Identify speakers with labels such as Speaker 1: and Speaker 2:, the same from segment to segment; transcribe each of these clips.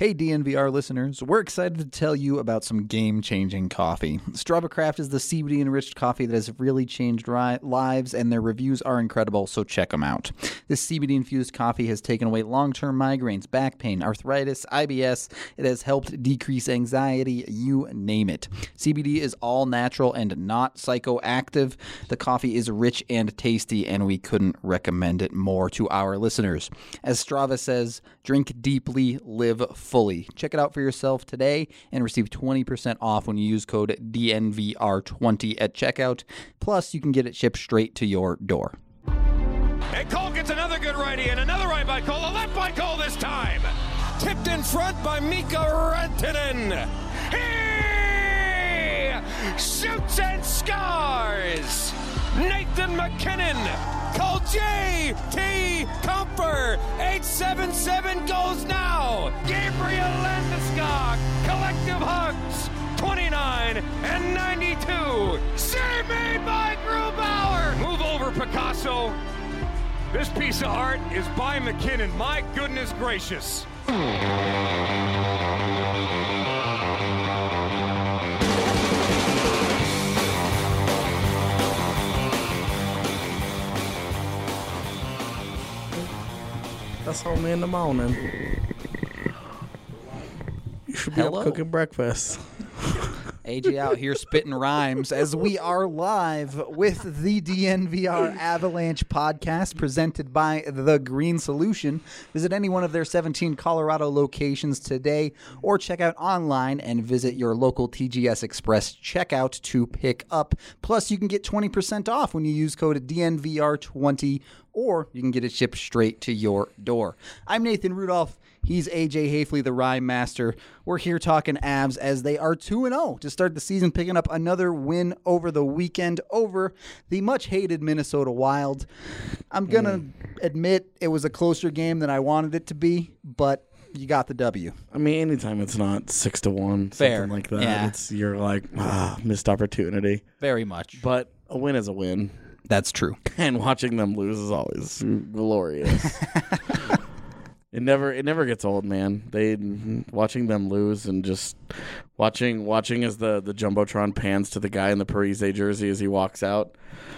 Speaker 1: Hey DNVR listeners, we're excited to tell you about some game-changing coffee. Strava Craft is the CBD-enriched coffee that has really changed lives, and their reviews are incredible, so check them out. This CBD-infused coffee has taken away long-term migraines, back pain, arthritis, IBS. It has helped decrease anxiety, you name it. CBD is all natural and not psychoactive. The coffee is rich and tasty, and we couldn't recommend it more to our listeners. As Strava says, drink deeply, live fully. Check it out for yourself today and receive 20% off when you use code DNVR20 at checkout. Plus, you can get it shipped straight to your door.
Speaker 2: And Cole gets another good righty, and another right by Cole, a left by Cole this time. Tipped in front by Mika Rantanen. He shoots and scores. Nathan McKinnon. Call J.T. Comfer. 877 goes now. Gabriel Landeskog. Collective hugs. 29 and 92. Save made by Grubauer. Move over, Picasso. This piece of art is by McKinnon. My goodness gracious.
Speaker 3: That's only in the morning. You should be up cooking breakfast.
Speaker 1: AJ out here spitting rhymes as we are live with the DNVR Avalanche podcast presented by The Green Solution. Visit any one of their 17 Colorado locations today or check out online and visit your local TGS Express checkout to pick up. Plus, you can get 20% off when you use code DNVR20 or you can get it shipped straight to your door. I'm Nathan Rudolph. He's AJ Hafley, the Rhyme Master. We're here talking Avs as they are 2-0 to start the season, picking up another win over the weekend over the much-hated Minnesota Wild. I'm going to admit it was a closer game than I wanted it to be, but you got the W.
Speaker 3: I mean, anytime it's not 6-1,
Speaker 1: Fair.
Speaker 3: something like that,
Speaker 1: Yeah.
Speaker 3: you're like, missed opportunity.
Speaker 1: Very much.
Speaker 3: But a win is a win.
Speaker 1: That's true.
Speaker 3: And watching them lose is always glorious. It never gets old, man. Watching them lose and just watching as the Jumbotron pans to the guy in the Parise jersey as he walks out.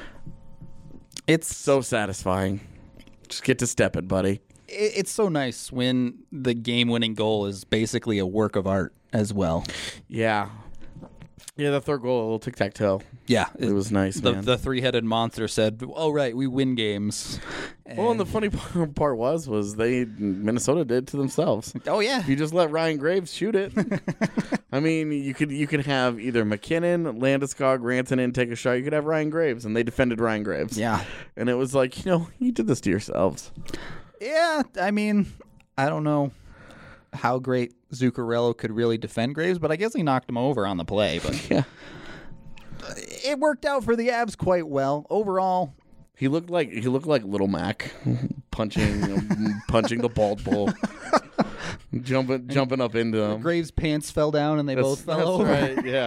Speaker 3: It's so satisfying. Just get to step it, buddy.
Speaker 1: It's so nice when the game-winning goal is basically a work of art as well.
Speaker 3: Yeah. Yeah, the third goal, a little tic-tac-toe.
Speaker 1: Yeah.
Speaker 3: It was nice, man.
Speaker 1: The three-headed monster said, oh, right, we win games.
Speaker 3: And the funny part was Minnesota did it to themselves.
Speaker 1: Oh, yeah.
Speaker 3: If you just let Ryan Graves shoot it. I mean, you could have either McKinnon, Landeskog, Rantanen take a shot. You could have Ryan Graves, and they defended Ryan Graves.
Speaker 1: Yeah.
Speaker 3: And it was like, you did this to yourselves.
Speaker 1: Yeah, I mean, I don't know how great Zuccarello could really defend Graves, but I guess he knocked him over on the play. But
Speaker 3: yeah,
Speaker 1: it worked out for the Avs quite well. Overall,
Speaker 3: he looked like Little Mac punching the bald bull, jumping up into him.
Speaker 1: Graves' pants fell down and they both fell over.
Speaker 3: Right, yeah.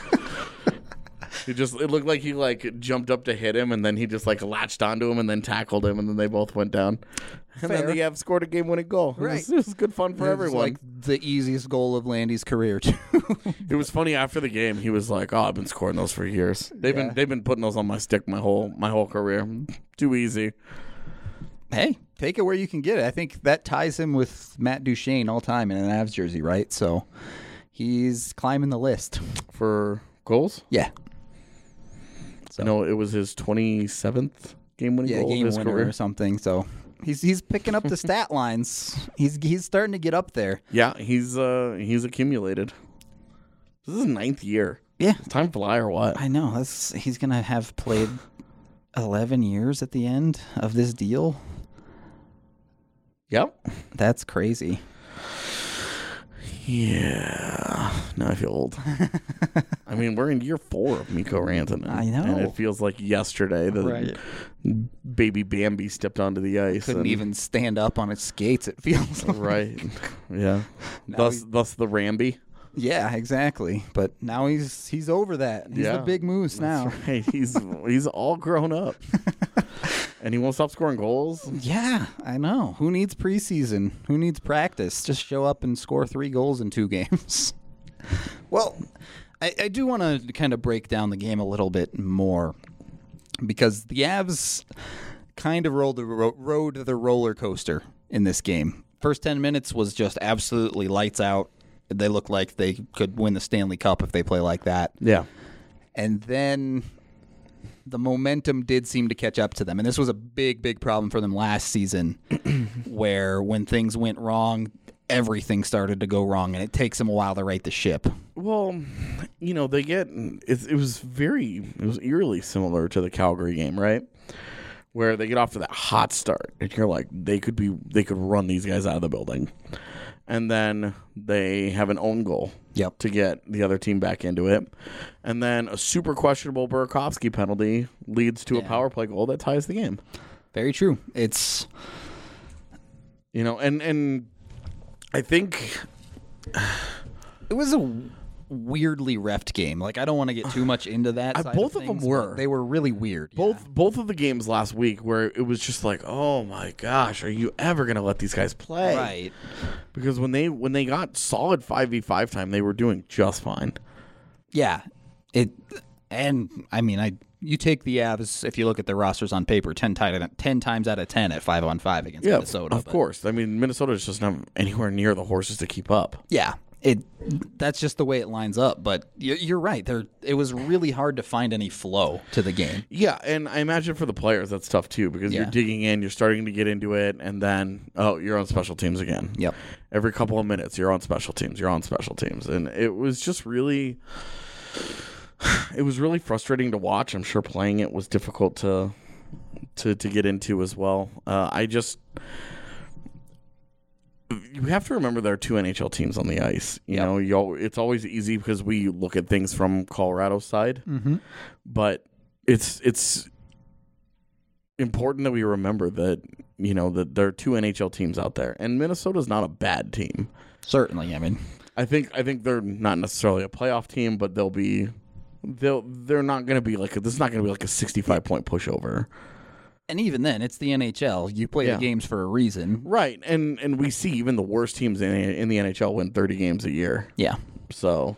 Speaker 3: It looked like he jumped up to hit him, and then he just latched onto him and then tackled him, and then they both went down. And
Speaker 1: Fair.
Speaker 3: then the Avs scored a game-winning goal.
Speaker 1: Right.
Speaker 3: It was good fun for everyone.
Speaker 1: It was the easiest goal of Landy's career, too.
Speaker 3: It was funny after the game. He was like, "Oh, I've been scoring those for years. They've been putting those on my stick my whole career. Too easy."
Speaker 1: Hey, take it where you can get it. I think that ties him with Matt Duchene all time in an Avs jersey, right? So he's climbing the list
Speaker 3: For goals?
Speaker 1: Yeah.
Speaker 3: So. No, it was his 27th game-winning goal
Speaker 1: game
Speaker 3: of his
Speaker 1: winner
Speaker 3: career
Speaker 1: or something. So he's picking up the stat lines. He's starting to get up there.
Speaker 3: Yeah, he's accumulated. This is his 9th year.
Speaker 1: Yeah,
Speaker 3: does time fly or what?
Speaker 1: I know. He's gonna have played 11 years at the end of this deal.
Speaker 3: Yep,
Speaker 1: that's crazy.
Speaker 3: Yeah, now I feel old. I mean, we're in year 4 of Mikko Rantanen.
Speaker 1: I know.
Speaker 3: And it feels like yesterday that baby Bambi stepped onto the ice.
Speaker 1: Couldn't even stand up on its skates, it feels like.
Speaker 3: Right. Yeah. Thus the Ramby.
Speaker 1: Yeah, exactly. But now he's over that. He's the big moose now.
Speaker 3: Right. He's all grown up. And he won't stop scoring goals.
Speaker 1: Yeah, I know. Who needs preseason? Who needs practice? Just show up and score 3 goals in 2 games. Well, I do want to kind of break down the game a little bit more because the Avs kind of rode the roller coaster in this game. First 10 minutes was just absolutely lights out. They look like they could win the Stanley Cup if they play like that.
Speaker 3: Yeah.
Speaker 1: And then the momentum did seem to catch up to them. And this was a big, big problem for them last season where when things went wrong, everything started to go wrong, and it takes them a while to right the ship.
Speaker 3: Well, they get it was eerily similar to the Calgary game, right? Where they get off to that hot start, and you're like, they could run these guys out of the building, and then they have an own goal to get the other team back into it, and then a super questionable Burakovsky penalty leads to a power play goal that ties the game.
Speaker 1: Very true. It's
Speaker 3: and I think
Speaker 1: it was a weirdly reffed game. Like, I don't want to get too much into that.
Speaker 3: Both of them were.
Speaker 1: They were really weird.
Speaker 3: Both of the games last week where it was just like, oh my gosh, are you ever going to let these guys play?
Speaker 1: Right.
Speaker 3: Because when they got solid 5v5 time, they were doing just fine.
Speaker 1: Yeah. You take the Avs, if you look at their rosters on paper, 10 times out of 10 at 5-on-5 against Minnesota.
Speaker 3: Of course. I mean, Minnesota is just not anywhere near the horses to keep up.
Speaker 1: Yeah. That's just the way it lines up. But you're right. It was really hard to find any flow to the game.
Speaker 3: Yeah, and I imagine for the players that's tough too because you're digging in, you're starting to get into it, and then, you're on special teams again.
Speaker 1: Yep.
Speaker 3: Every couple of minutes, you're on special teams. And it was just really... It was really frustrating to watch. I'm sure playing it was difficult to get into as well. You have to remember there are 2 NHL teams on the ice. You know, it's always easy because we look at things from Colorado's side, but it's important that we remember that that there are 2 NHL teams out there, and Minnesota's not a bad team.
Speaker 1: Certainly, I mean,
Speaker 3: I think they're not necessarily a playoff team, but they're not going to be like this is not going to be like a 65-point pushover.
Speaker 1: And even then, it's the NHL. You play the games for a reason,
Speaker 3: right? And we see even the worst teams in the NHL win 30 games a year.
Speaker 1: Yeah.
Speaker 3: So,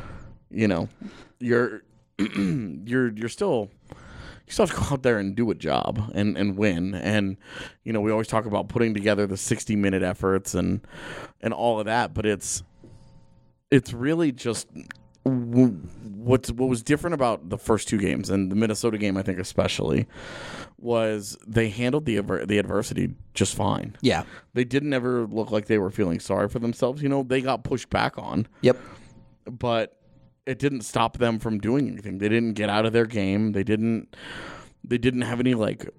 Speaker 3: you're still. You still have to go out there and do a job and win. And, we always talk about putting together the 60-minute efforts and all of that, but it's really just what was different about the first 2 games, and the Minnesota game I think especially, was they handled the adversity just fine.
Speaker 1: Yeah.
Speaker 3: They didn't ever look like they were feeling sorry for themselves. They got pushed back on.
Speaker 1: Yep.
Speaker 3: But it didn't stop them from doing anything. They didn't get out of their game. They didn't have any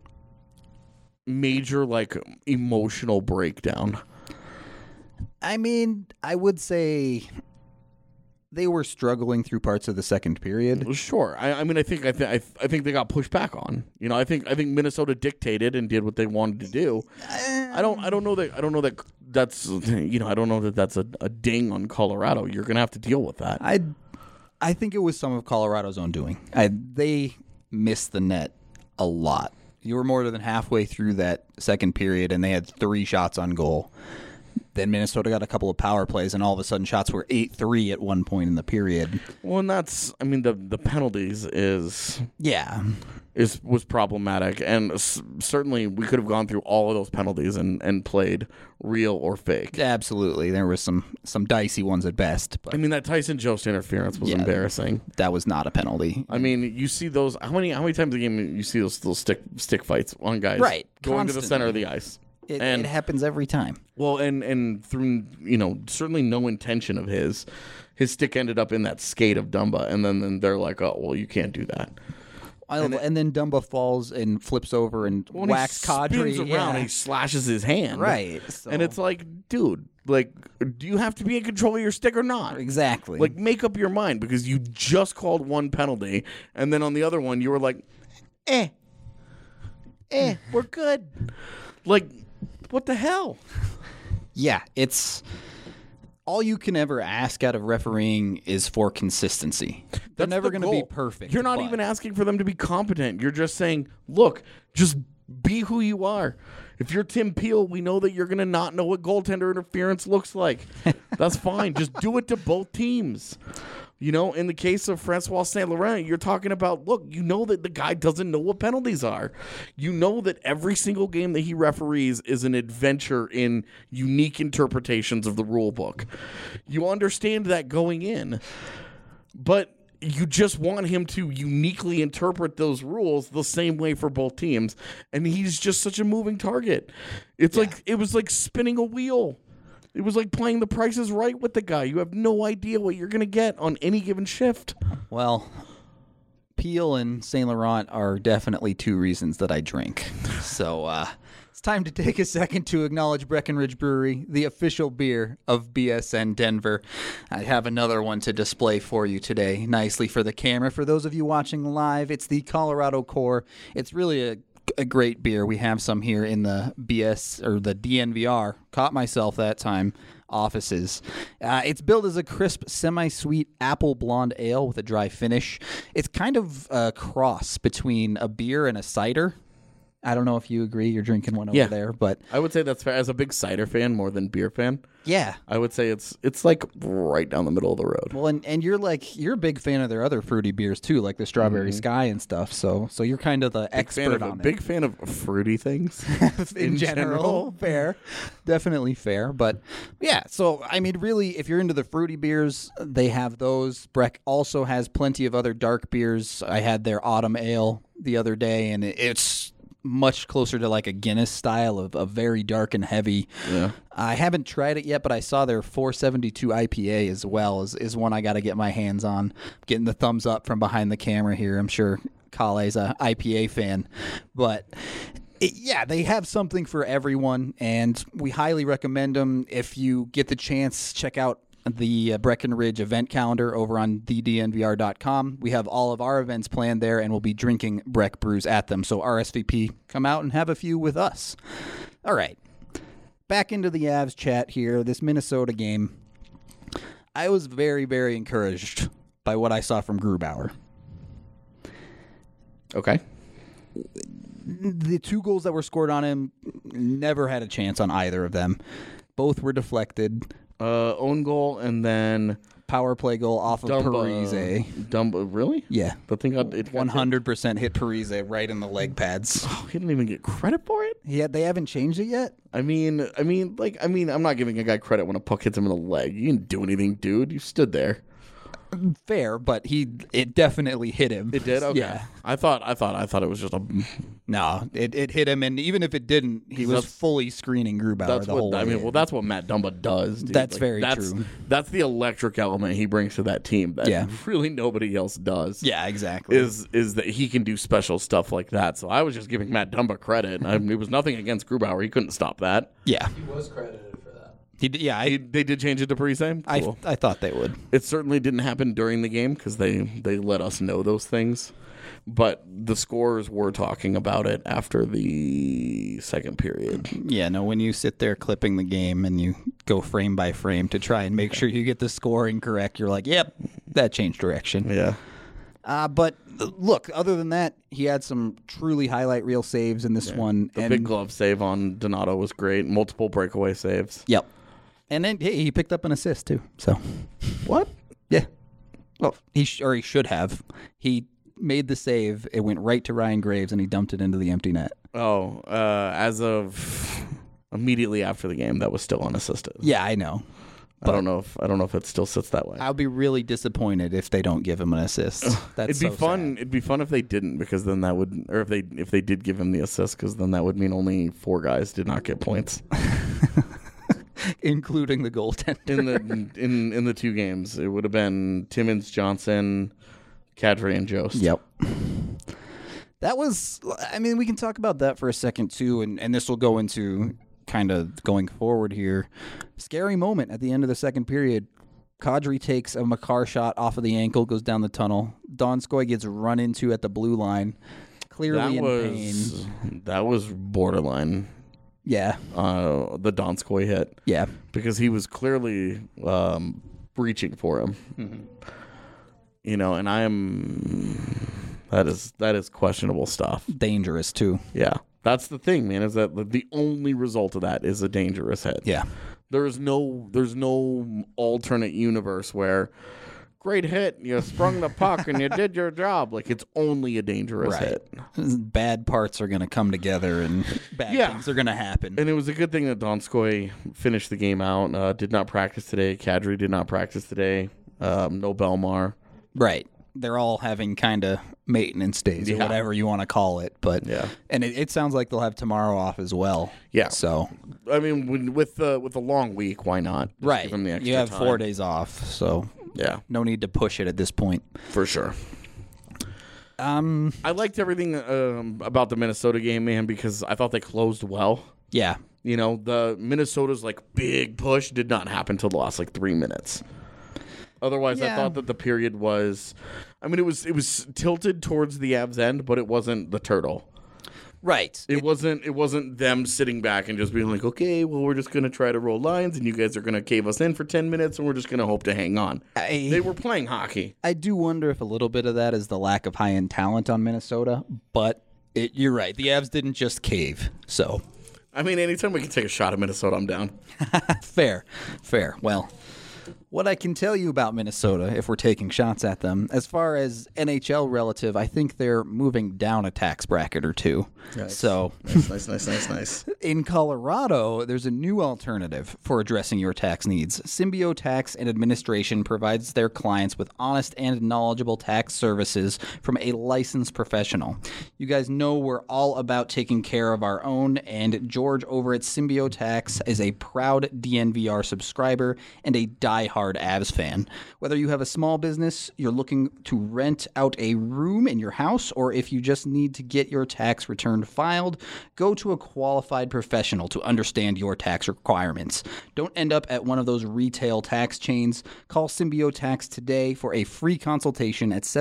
Speaker 3: major emotional breakdown.
Speaker 1: I mean, I would say they were struggling through parts of the second period.
Speaker 3: Sure. I think they got pushed back on. I think Minnesota dictated and did what they wanted to do. I don't know that that's a ding on Colorado. You're going to have to deal with that.
Speaker 1: I think it was some of Colorado's own doing. They missed the net a lot. You were more than halfway through that second period, and they had 3 shots on goal. Then Minnesota got a couple of power plays, and all of a sudden shots were 8-3 at one point in the period.
Speaker 3: Well, and that's, the penalties was problematic, and certainly we could have gone through all of those penalties and played real or fake.
Speaker 1: Absolutely. There was some dicey ones at best. But
Speaker 3: that Tyson Jost interference was embarrassing.
Speaker 1: That was not a penalty.
Speaker 3: You see those, how many times a game you see those little stick fights on guys going to the center of the ice?
Speaker 1: It happens every time. Well,
Speaker 3: and through certainly no intention of his stick ended up in that skate of Dumba, and then they're like, oh well, you can't do that.
Speaker 1: And then Dumba falls and flips over and whacks Kadri.
Speaker 3: Spins around and he slashes his hand.
Speaker 1: Right.
Speaker 3: So. And it's like, dude, do you have to be in control of your stick or not?
Speaker 1: Exactly.
Speaker 3: Make up your mind, because you just called one penalty, and then on the other one you were like, we're good. What the hell?
Speaker 1: Yeah, it's all you can ever ask out of refereeing is for consistency. They're never going to be perfect.
Speaker 3: You're not even asking for them to be competent. You're just saying, look, just Be who you are. If you're Tim Peel, we know that you're going to not know what goaltender interference looks like. That's fine. Just do it to both teams. You know, in the case of Francois Saint-Laurent, you're talking about, look, you know that the guy doesn't know what penalties are. You know that every single game that he referees is an adventure in unique interpretations of the rule book. You understand that going in. But you just want him to uniquely interpret those rules the same way for both teams. And he's just such a moving target. It's like, it was like spinning a wheel. It was like playing The Price is Right with the guy. You have no idea what you're going to get on any given shift.
Speaker 1: Well, Peel and Saint Laurent are definitely two reasons that I drink. So it's time to take a second to acknowledge Breckenridge Brewery, the official beer of BSN Denver. I have another one to display for you today, nicely for the camera. For those of you watching live, it's the Colorado Core. It's really a great beer. We have some here in the BS or the DNVR. Caught myself that time. Offices. It's billed as a crisp, semi-sweet apple blonde ale with a dry finish. It's kind of a cross between a beer and a cider. I don't know if you agree. You're drinking one over there, but
Speaker 3: I would say that's fair. As a big cider fan more than beer fan,
Speaker 1: yeah,
Speaker 3: I would say it's like right down the middle of the road.
Speaker 1: Well, and you're a big fan of their other fruity beers too, like the Strawberry Sky and stuff. So you're kind of the expert on it.
Speaker 3: Big fan of fruity things
Speaker 1: in general. Fair, definitely fair. But yeah, so I mean, really, if you're into the fruity beers, they have those. Breck also has plenty of other dark beers. I had their Autumn Ale the other day, and it's much closer to like a Guinness style of very dark and heavy. Yeah. I haven't tried it yet, but I saw their 472 IPA as well is one I got to get my hands on. Getting the thumbs up from behind the camera here. I'm sure Kale's a IPA fan, but yeah, they have something for everyone, and we highly recommend them. If you get the chance, check out the Breckenridge event calendar over on thednvr.com. We have all of our events planned there, and we'll be drinking Breck brews at them. So RSVP, come out and have a few with us. All right, back into the Avs chat here. This Minnesota game, I was very, very encouraged by what I saw from Grubauer.
Speaker 3: Okay.
Speaker 1: The 2 goals that were scored on him, never had a chance on either of them. Both were deflected.
Speaker 3: Own goal and then
Speaker 1: power play goal off of Parise.
Speaker 3: Dumba, really?
Speaker 1: Yeah.
Speaker 3: The thing got
Speaker 1: 100% hit Parise right in the leg pads.
Speaker 3: Oh, he didn't even get credit for it?
Speaker 1: Yeah, they haven't changed it yet?
Speaker 3: I mean, I'm not giving a guy credit when a puck hits him in the leg. You didn't do anything, dude. You stood there.
Speaker 1: Fair, but it definitely hit him.
Speaker 3: It did? Okay.
Speaker 1: Yeah.
Speaker 3: I thought it was just a...
Speaker 1: No, it hit him, and even if it didn't, he was fully screening Grubauer the whole way.
Speaker 3: I mean, well, that's what Matt Dumba does, dude.
Speaker 1: That's very true.
Speaker 3: That's the electric element he brings to that team that really nobody else does.
Speaker 1: Yeah, exactly.
Speaker 3: Is that he can do special stuff like that. So I was just giving Matt Dumba credit. It was nothing against Grubauer. He couldn't stop that.
Speaker 1: Yeah.
Speaker 4: He was credited for that.
Speaker 3: They did change it to Parise? Cool.
Speaker 1: I thought they would.
Speaker 3: It certainly didn't happen during the game because they let us know those things. But the scorers were talking about it after the second period.
Speaker 1: Yeah, no, when you sit there clipping the game and you go frame by frame to try and make sure you get the scoring correct, you're like, yep, that changed direction.
Speaker 3: Yeah.
Speaker 1: But look, other than that, he had some truly highlight reel saves in this one.
Speaker 3: The big glove save on Donato was great. Multiple breakaway saves.
Speaker 1: Yep. And then he picked up an assist, too. So
Speaker 3: what?
Speaker 1: Yeah. Well, he should have. He made the save. It went right to Ryan Graves, and he dumped it into the empty net.
Speaker 3: Oh, as of immediately after the game, that was still unassisted.
Speaker 1: Yeah, I know.
Speaker 3: I don't know if it still sits that way.
Speaker 1: I'll be really disappointed if they don't give him an assist. That's
Speaker 3: It'd be fun. It'd be fun if they didn't, because then that would, or if they did give him the assist, because then that would mean only 4 guys did not get points.
Speaker 1: Including the goaltender.
Speaker 3: In the 2 games, it would have been Timmins, Johnson, Kadri, and Jost.
Speaker 1: Yep. That was, I mean, we can talk about that for a second too, and this will go into kind of going forward here. Scary moment at the end of the second period. Kadri takes a Makar shot off of the ankle, goes down the tunnel. Donskoy gets run into at the blue line, clearly in pain.
Speaker 3: That was borderline.
Speaker 1: Yeah.
Speaker 3: The Donskoy hit.
Speaker 1: Yeah.
Speaker 3: Because he was clearly reaching for him.
Speaker 1: Mm-hmm.
Speaker 3: You know, and that is questionable stuff.
Speaker 1: Dangerous too.
Speaker 3: Yeah. That's the thing, man, is that the only result of that is a dangerous hit.
Speaker 1: Yeah.
Speaker 3: There's no alternate universe where great hit, you sprung the puck and you did your job. Like, it's only a dangerous hit.
Speaker 1: Bad parts are going to come together and bad things are going to happen.
Speaker 3: And it was a good thing that Donskoy finished the game out. Did not practice today. Kadri did not practice today. No Belmar.
Speaker 1: Right. They're all having kind of maintenance days or whatever you want to call it. But and it sounds like they'll have tomorrow off as well.
Speaker 3: Yeah.
Speaker 1: So
Speaker 3: I mean, with a long week, why not? Just give them the extra
Speaker 1: you have
Speaker 3: time.
Speaker 1: 4 days off, so no need to push it at this point.
Speaker 3: For sure. I liked everything about the Minnesota game, man, because I thought they closed well.
Speaker 1: Yeah.
Speaker 3: You know, the Minnesota's big push did not happen until the last 3 minutes. Otherwise, I thought that the period was, I mean, it was tilted towards the Avs end, but it wasn't the turtle.
Speaker 1: Right.
Speaker 3: It wasn't them sitting back and just being like, okay, well, we're just going to try to roll lines and you guys are going to cave us in for 10 minutes and we're just going to hope to hang on. They were playing hockey.
Speaker 1: I do wonder if a little bit of that is the lack of high-end talent on Minnesota, but you're right. The Avs didn't just cave, so.
Speaker 3: I mean, anytime we can take a shot at Minnesota, I'm down.
Speaker 1: Fair. Well, what I can tell you about Minnesota, if we're taking shots at them, as far as NHL relative, I think they're moving down a tax bracket or two.
Speaker 3: Nice.
Speaker 1: So
Speaker 3: Nice.
Speaker 1: in Colorado, there's a new alternative for addressing your tax needs. Symbio Tax and Administration provides their clients with honest and knowledgeable tax services from a licensed professional. You guys know we're all about taking care of our own, and George over at Symbio Tax is a proud DNVR subscriber and a diehard Avs fan. Whether you have a small business, you're looking to rent out a room in your house, or if you just need to get your tax return filed, go to a qualified professional to understand your tax requirements. Don't end up at one of those retail tax chains. Call Symbio Tax today for a free consultation at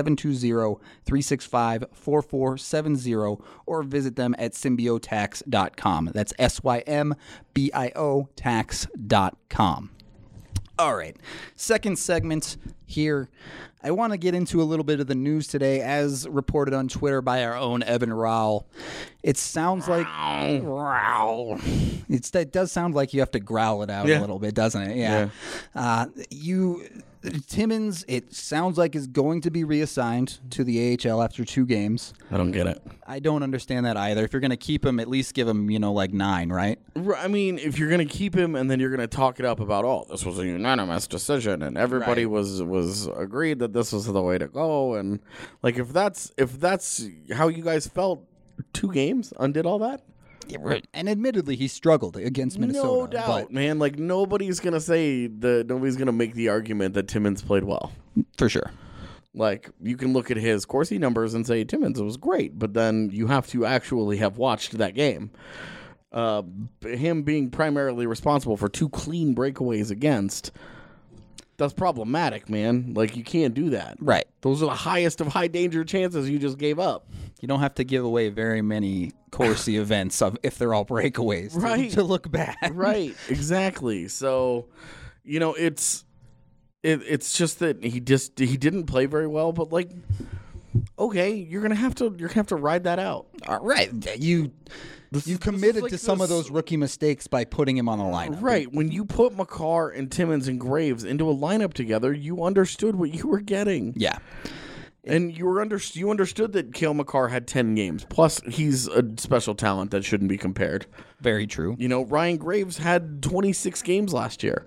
Speaker 1: 720-365-4470 or visit them at symbiotax.com. That's SYMBIO tax.com. All right, second segment here. I want to get into a little bit of the news today, as reported on Twitter by our own Evan Rowell. It sounds like it does sound like you have to growl it out a little bit, doesn't it? Yeah. Timmins, it sounds like, is going to be reassigned to the AHL after 2 games.
Speaker 3: I don't get it.
Speaker 1: I don't understand that either. If you're going to keep him, at least give him, 9, right?
Speaker 3: I mean, if you're going to keep him and then you're going to talk it up about, this was a unanimous decision and everybody was agreed that this was the way to go, and if that's how you guys felt, 2 games undid all that.
Speaker 1: Yeah, right. And admittly, he struggled against Minnesota.
Speaker 3: No doubt, man. Nobody's going to say nobody's going to make the argument that Timmins played well.
Speaker 1: For sure.
Speaker 3: You can look at his Corsi numbers and say Timmins was great, but then you have to actually have watched that game. Him being primarily responsible for 2 clean breakaways against, that's problematic, man. You can't do that.
Speaker 1: Right.
Speaker 3: Those are the highest of high danger chances you just gave up.
Speaker 1: You don't have to give away very many Corsi events if they're all breakaways to look bad.
Speaker 3: Right. Exactly. So, it's just that he didn't play very well, but okay, you're gonna have to ride that out.
Speaker 1: All right. You committed to some of those rookie mistakes by putting him on the lineup.
Speaker 3: Right. When you put Makar and Timmins and Graves into a lineup together, you understood what you were getting.
Speaker 1: Yeah.
Speaker 3: And you understood that Cale Makar had 10 games. Plus, he's a special talent that shouldn't be compared.
Speaker 1: Very true.
Speaker 3: Ryan Graves had 26 games last year.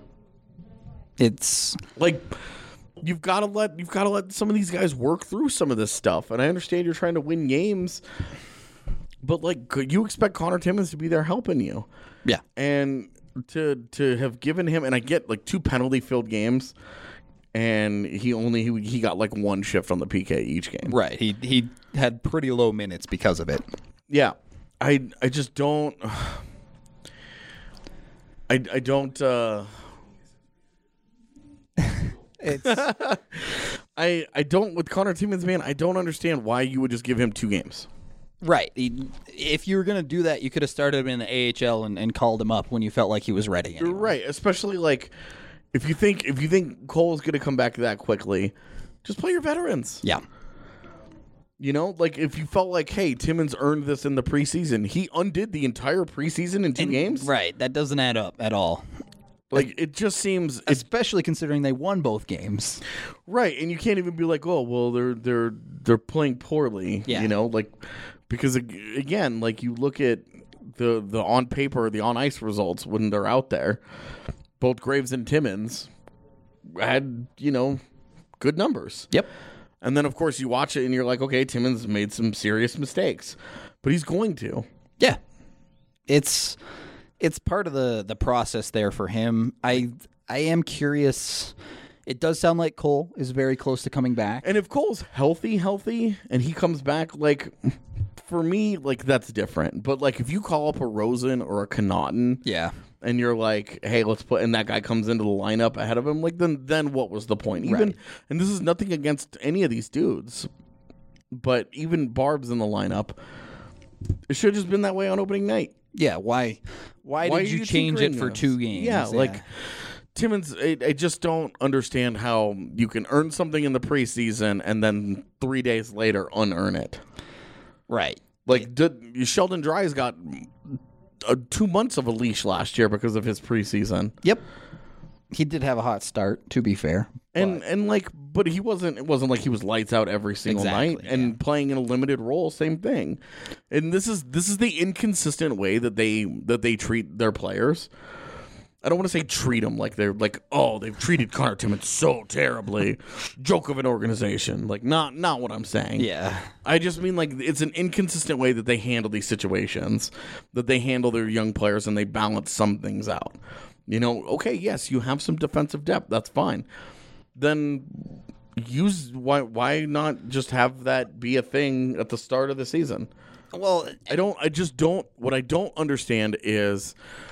Speaker 1: It's
Speaker 3: you've got to let some of these guys work through some of this stuff. And I understand you're trying to win games, but you expect Connor Timmins to be there helping you.
Speaker 1: Yeah.
Speaker 3: And to have given him, and I get 2 penalty filled games, and he got 1 shift on the PK each game.
Speaker 1: Right. He had pretty low minutes because of it.
Speaker 3: Yeah. I just don't I don't
Speaker 1: It's
Speaker 3: I don't with Connor Timmins, man, I don't understand why you would just give him 2 games.
Speaker 1: Right. If you were going to do that, you could have started him in the AHL and called him up when you felt like he was ready. Anyway.
Speaker 3: Right. Especially if you think Cole's going to come back that quickly, just play your veterans.
Speaker 1: Yeah.
Speaker 3: You know, like if you felt like, hey, Timmins earned this in the preseason, he undid the entire preseason in 2 games.
Speaker 1: Right. That doesn't add up at all.
Speaker 3: Like it just seems,
Speaker 1: Especially considering they won both games.
Speaker 3: right, and you can't even be like, oh, well, they're playing poorly.
Speaker 1: Yeah.
Speaker 3: You know, like because again, like you look at the on paper, the on ice results when they're out there, both Graves and Timmins had good numbers.
Speaker 1: Yep.
Speaker 3: And then, of course, you watch it and you're like, okay, Timmins made some serious mistakes. But he's going to.
Speaker 1: Yeah. It's part of the process there for him. I am curious. It does sound like Cole is very close to coming back.
Speaker 3: And if Cole's healthy, and he comes back, like, for me, like, that's different. But, like, if you call up a Rosen or a Connaughton.
Speaker 1: Yeah.
Speaker 3: And you're like, hey, let's put, and that guy comes into the lineup ahead of him, like, then what was the point? Even,
Speaker 1: right.
Speaker 3: And this is nothing against any of these dudes, but even Barb's in the lineup, it should have just been that way on opening night.
Speaker 1: Yeah, why did you change it for 2 games?
Speaker 3: Yeah, like, Timmins, I just don't understand how you can earn something in the preseason and then 3 days later unearn it.
Speaker 1: Right.
Speaker 3: Like, Sheldon Dries got 2 months of a leash last year because of his preseason.
Speaker 1: Yep. He did have a hot start, to be fair.
Speaker 3: But it wasn't like he was lights out every single night and playing in a limited role, same thing. And this is the inconsistent way that they treat their players. I don't want to say treat them like they're like, oh, they've treated Connor Timmins so terribly. Joke of an organization. Like, not what I'm saying.
Speaker 1: Yeah.
Speaker 3: I just mean, like, it's an inconsistent way that they handle these situations, that they handle their young players and they balance some things out. You know, okay, yes, you have some defensive depth. That's fine. Then why not just have that be a thing at the start of the season?
Speaker 1: Well,
Speaker 3: what I don't understand is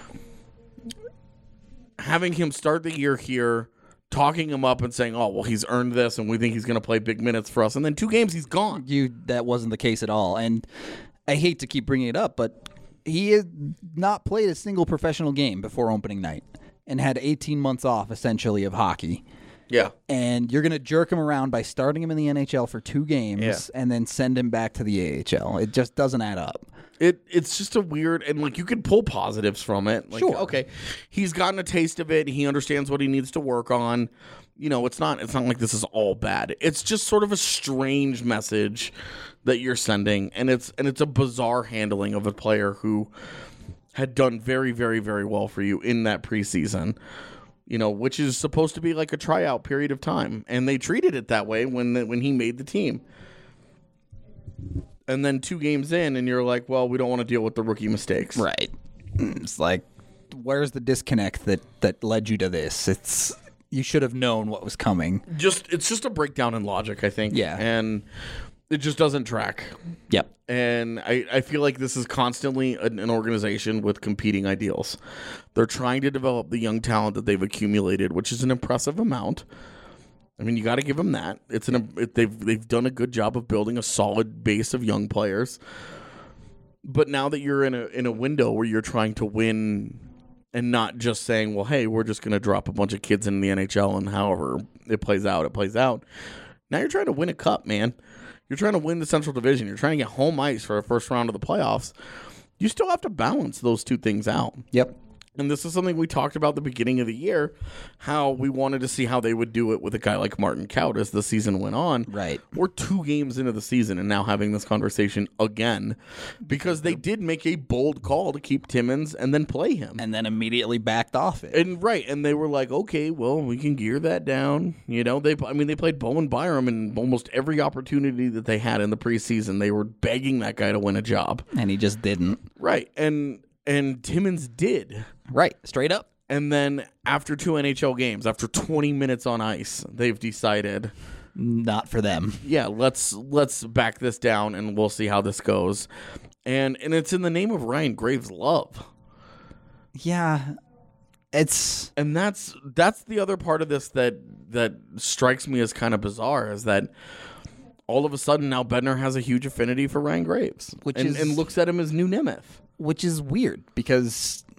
Speaker 3: having him start the year here, talking him up and saying, oh, well, he's earned this and we think he's going to play big minutes for us. And then 2 games, he's gone.
Speaker 1: That wasn't the case at all. And I hate to keep bringing it up, but he has not played a single professional game before opening night and had 18 months off, essentially, of hockey.
Speaker 3: Yeah.
Speaker 1: And you're going to jerk him around by starting him in the NHL for 2 games and then send him back to the AHL. It just doesn't add up.
Speaker 3: It's just a weird, and like you can pull positives from it. Like,
Speaker 1: sure.
Speaker 3: Okay, he's gotten a taste of it. He understands what he needs to work on. You know, it's not like this is all bad. It's just sort of a strange message that you're sending, and it's a bizarre handling of a player who had done very, very, very well for you in that preseason. You know, which is supposed to be like a tryout period of time, and they treated it that way when he made the team. And then 2 games in, and you're like, well, we don't want to deal with the rookie mistakes.
Speaker 1: Right. It's like, where's the disconnect that led you to this? You should have known what was coming.
Speaker 3: It's just a breakdown in logic, I think.
Speaker 1: Yeah.
Speaker 3: And it just doesn't track.
Speaker 1: Yep.
Speaker 3: And I feel like this is constantly an organization with competing ideals. They're trying to develop the young talent that they've accumulated, which is an impressive amount. I mean, you got to give them that. They've done a good job of building a solid base of young players. But now that you're in a window where you're trying to win and not just saying, well, hey, we're just going to drop a bunch of kids in the NHL and however it plays out, it plays out. Now you're trying to win a cup, man. You're trying to win the Central Division. You're trying to get home ice for a first round of the playoffs. You still have to balance those 2 things out.
Speaker 1: Yep.
Speaker 3: And this is something we talked about at the beginning of the year, how we wanted to see how they would do it with a guy like Martin Kaut as the season went on.
Speaker 1: Right.
Speaker 3: We're 2 games into the season and now having this conversation again because they did make a bold call to keep Timmins and then play him.
Speaker 1: And then immediately backed off it.
Speaker 3: And they were like, okay, well, we can gear that down. You know, they played Bowen Byram in almost every opportunity that they had in the preseason. They were begging that guy to win a job.
Speaker 1: And he just didn't.
Speaker 3: Right. And Timmins did.
Speaker 1: Right, straight up.
Speaker 3: And then after 2 NHL games, after 20 minutes on ice, they've decided
Speaker 1: not for them.
Speaker 3: Yeah, let's back this down and we'll see how this goes. And it's in the name of Ryan Graves' love.
Speaker 1: Yeah.
Speaker 3: That's the other part of this that strikes me as kind of bizarre is that all of a sudden now Bednar has a huge affinity for Ryan Graves and looks at him as new Nemeth.
Speaker 1: Which is weird because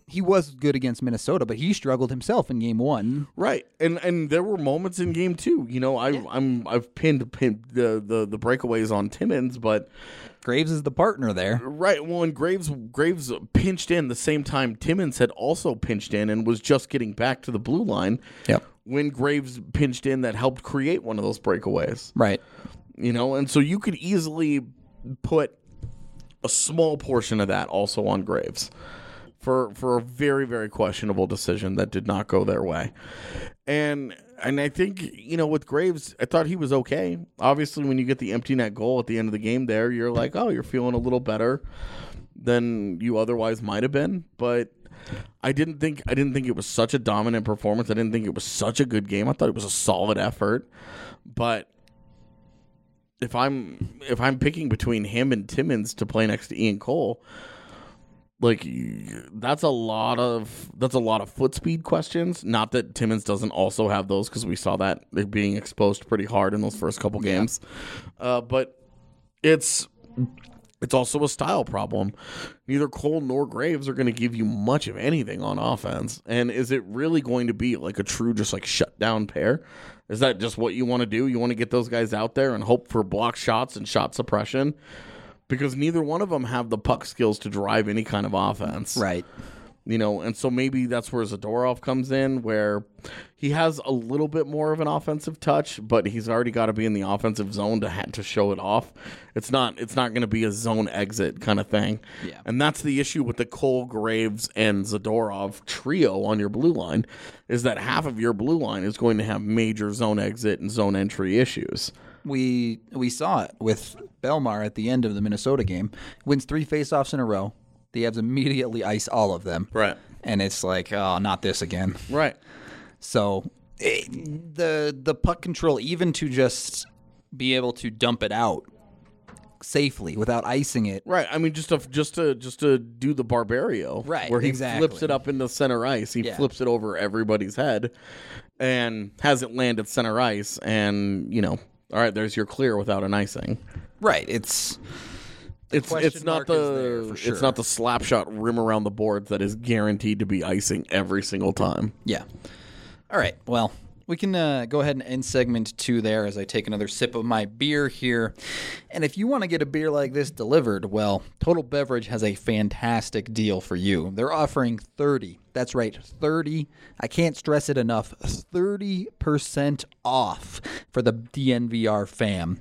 Speaker 1: he was good against Minnesota, but he struggled himself in game 1.
Speaker 3: Right, and there were moments in game 2. You know, I've pinned the breakaways on Timmins, but
Speaker 1: Graves is the partner there.
Speaker 3: Right. Well, and Graves pinched in the same time Timmins had also pinched in and was just getting back to the blue line.
Speaker 1: Yep.
Speaker 3: When Graves pinched in, that helped create one of those breakaways.
Speaker 1: Right.
Speaker 3: You know, and so you could easily put a small portion of that also on Graves for a very, very questionable decision that did not go their way. And I think, you know, with Graves, I thought he was okay. Obviously, when you get the empty net goal at the end of the game there, you're like, oh, you're feeling a little better than you otherwise might have been. But I didn't think it was such a dominant performance. I didn't think it was such a good game. I thought it was a solid effort. But if I'm picking between him and Timmins to play next to Ian Cole, like, that's a lot of foot speed questions. Not that Timmins doesn't also have those, because we saw that they're being exposed pretty hard in those first couple games. But it's also a style problem. Neither Cole nor Graves are going to give you much of anything on offense. And is it really going to be like a true just like shutdown pair? Is that just what you want to do? You want to get those guys out there and hope for block shots and shot suppression? Because neither one of them have the puck skills to drive any kind of offense.
Speaker 1: Right.
Speaker 3: You know, and so maybe that's where Zadorov comes in, where he has a little bit more of an offensive touch, but he's already got to be in the offensive zone to show it off. It's not going to be a zone exit kind of thing.
Speaker 1: Yeah.
Speaker 3: And that's the issue with the Cole, Graves, and Zadorov trio on your blue line, is that half of your blue line is going to have major zone exit and zone entry issues.
Speaker 1: We saw it with Belmar at the end of the Minnesota game. Wins 3 faceoffs in a row. The Avs immediately ice all of them.
Speaker 3: Right.
Speaker 1: And it's like, oh, not this again.
Speaker 3: Right.
Speaker 1: So the puck control, even to just be able to dump it out safely without icing it.
Speaker 3: Right. I mean, just to do the Barbario.
Speaker 1: Right.
Speaker 3: Where he
Speaker 1: exactly.
Speaker 3: flips it up into center ice. He
Speaker 1: Yeah.
Speaker 3: flips it over everybody's head and has it land at center ice. And, you know, all right, there's your clear without an icing.
Speaker 1: Right. It's
Speaker 3: not it's not the slap shot rim around the boards that is guaranteed to be icing every single time.
Speaker 1: Yeah. All right. Well, we can go ahead and end segment 2 there as I take another sip of my beer here. And if you want to get a beer like this delivered, well, Total Beverage has a fantastic deal for you. They're offering 30. That's right, 30. I can't stress it enough. 30% off for the DNVR fam.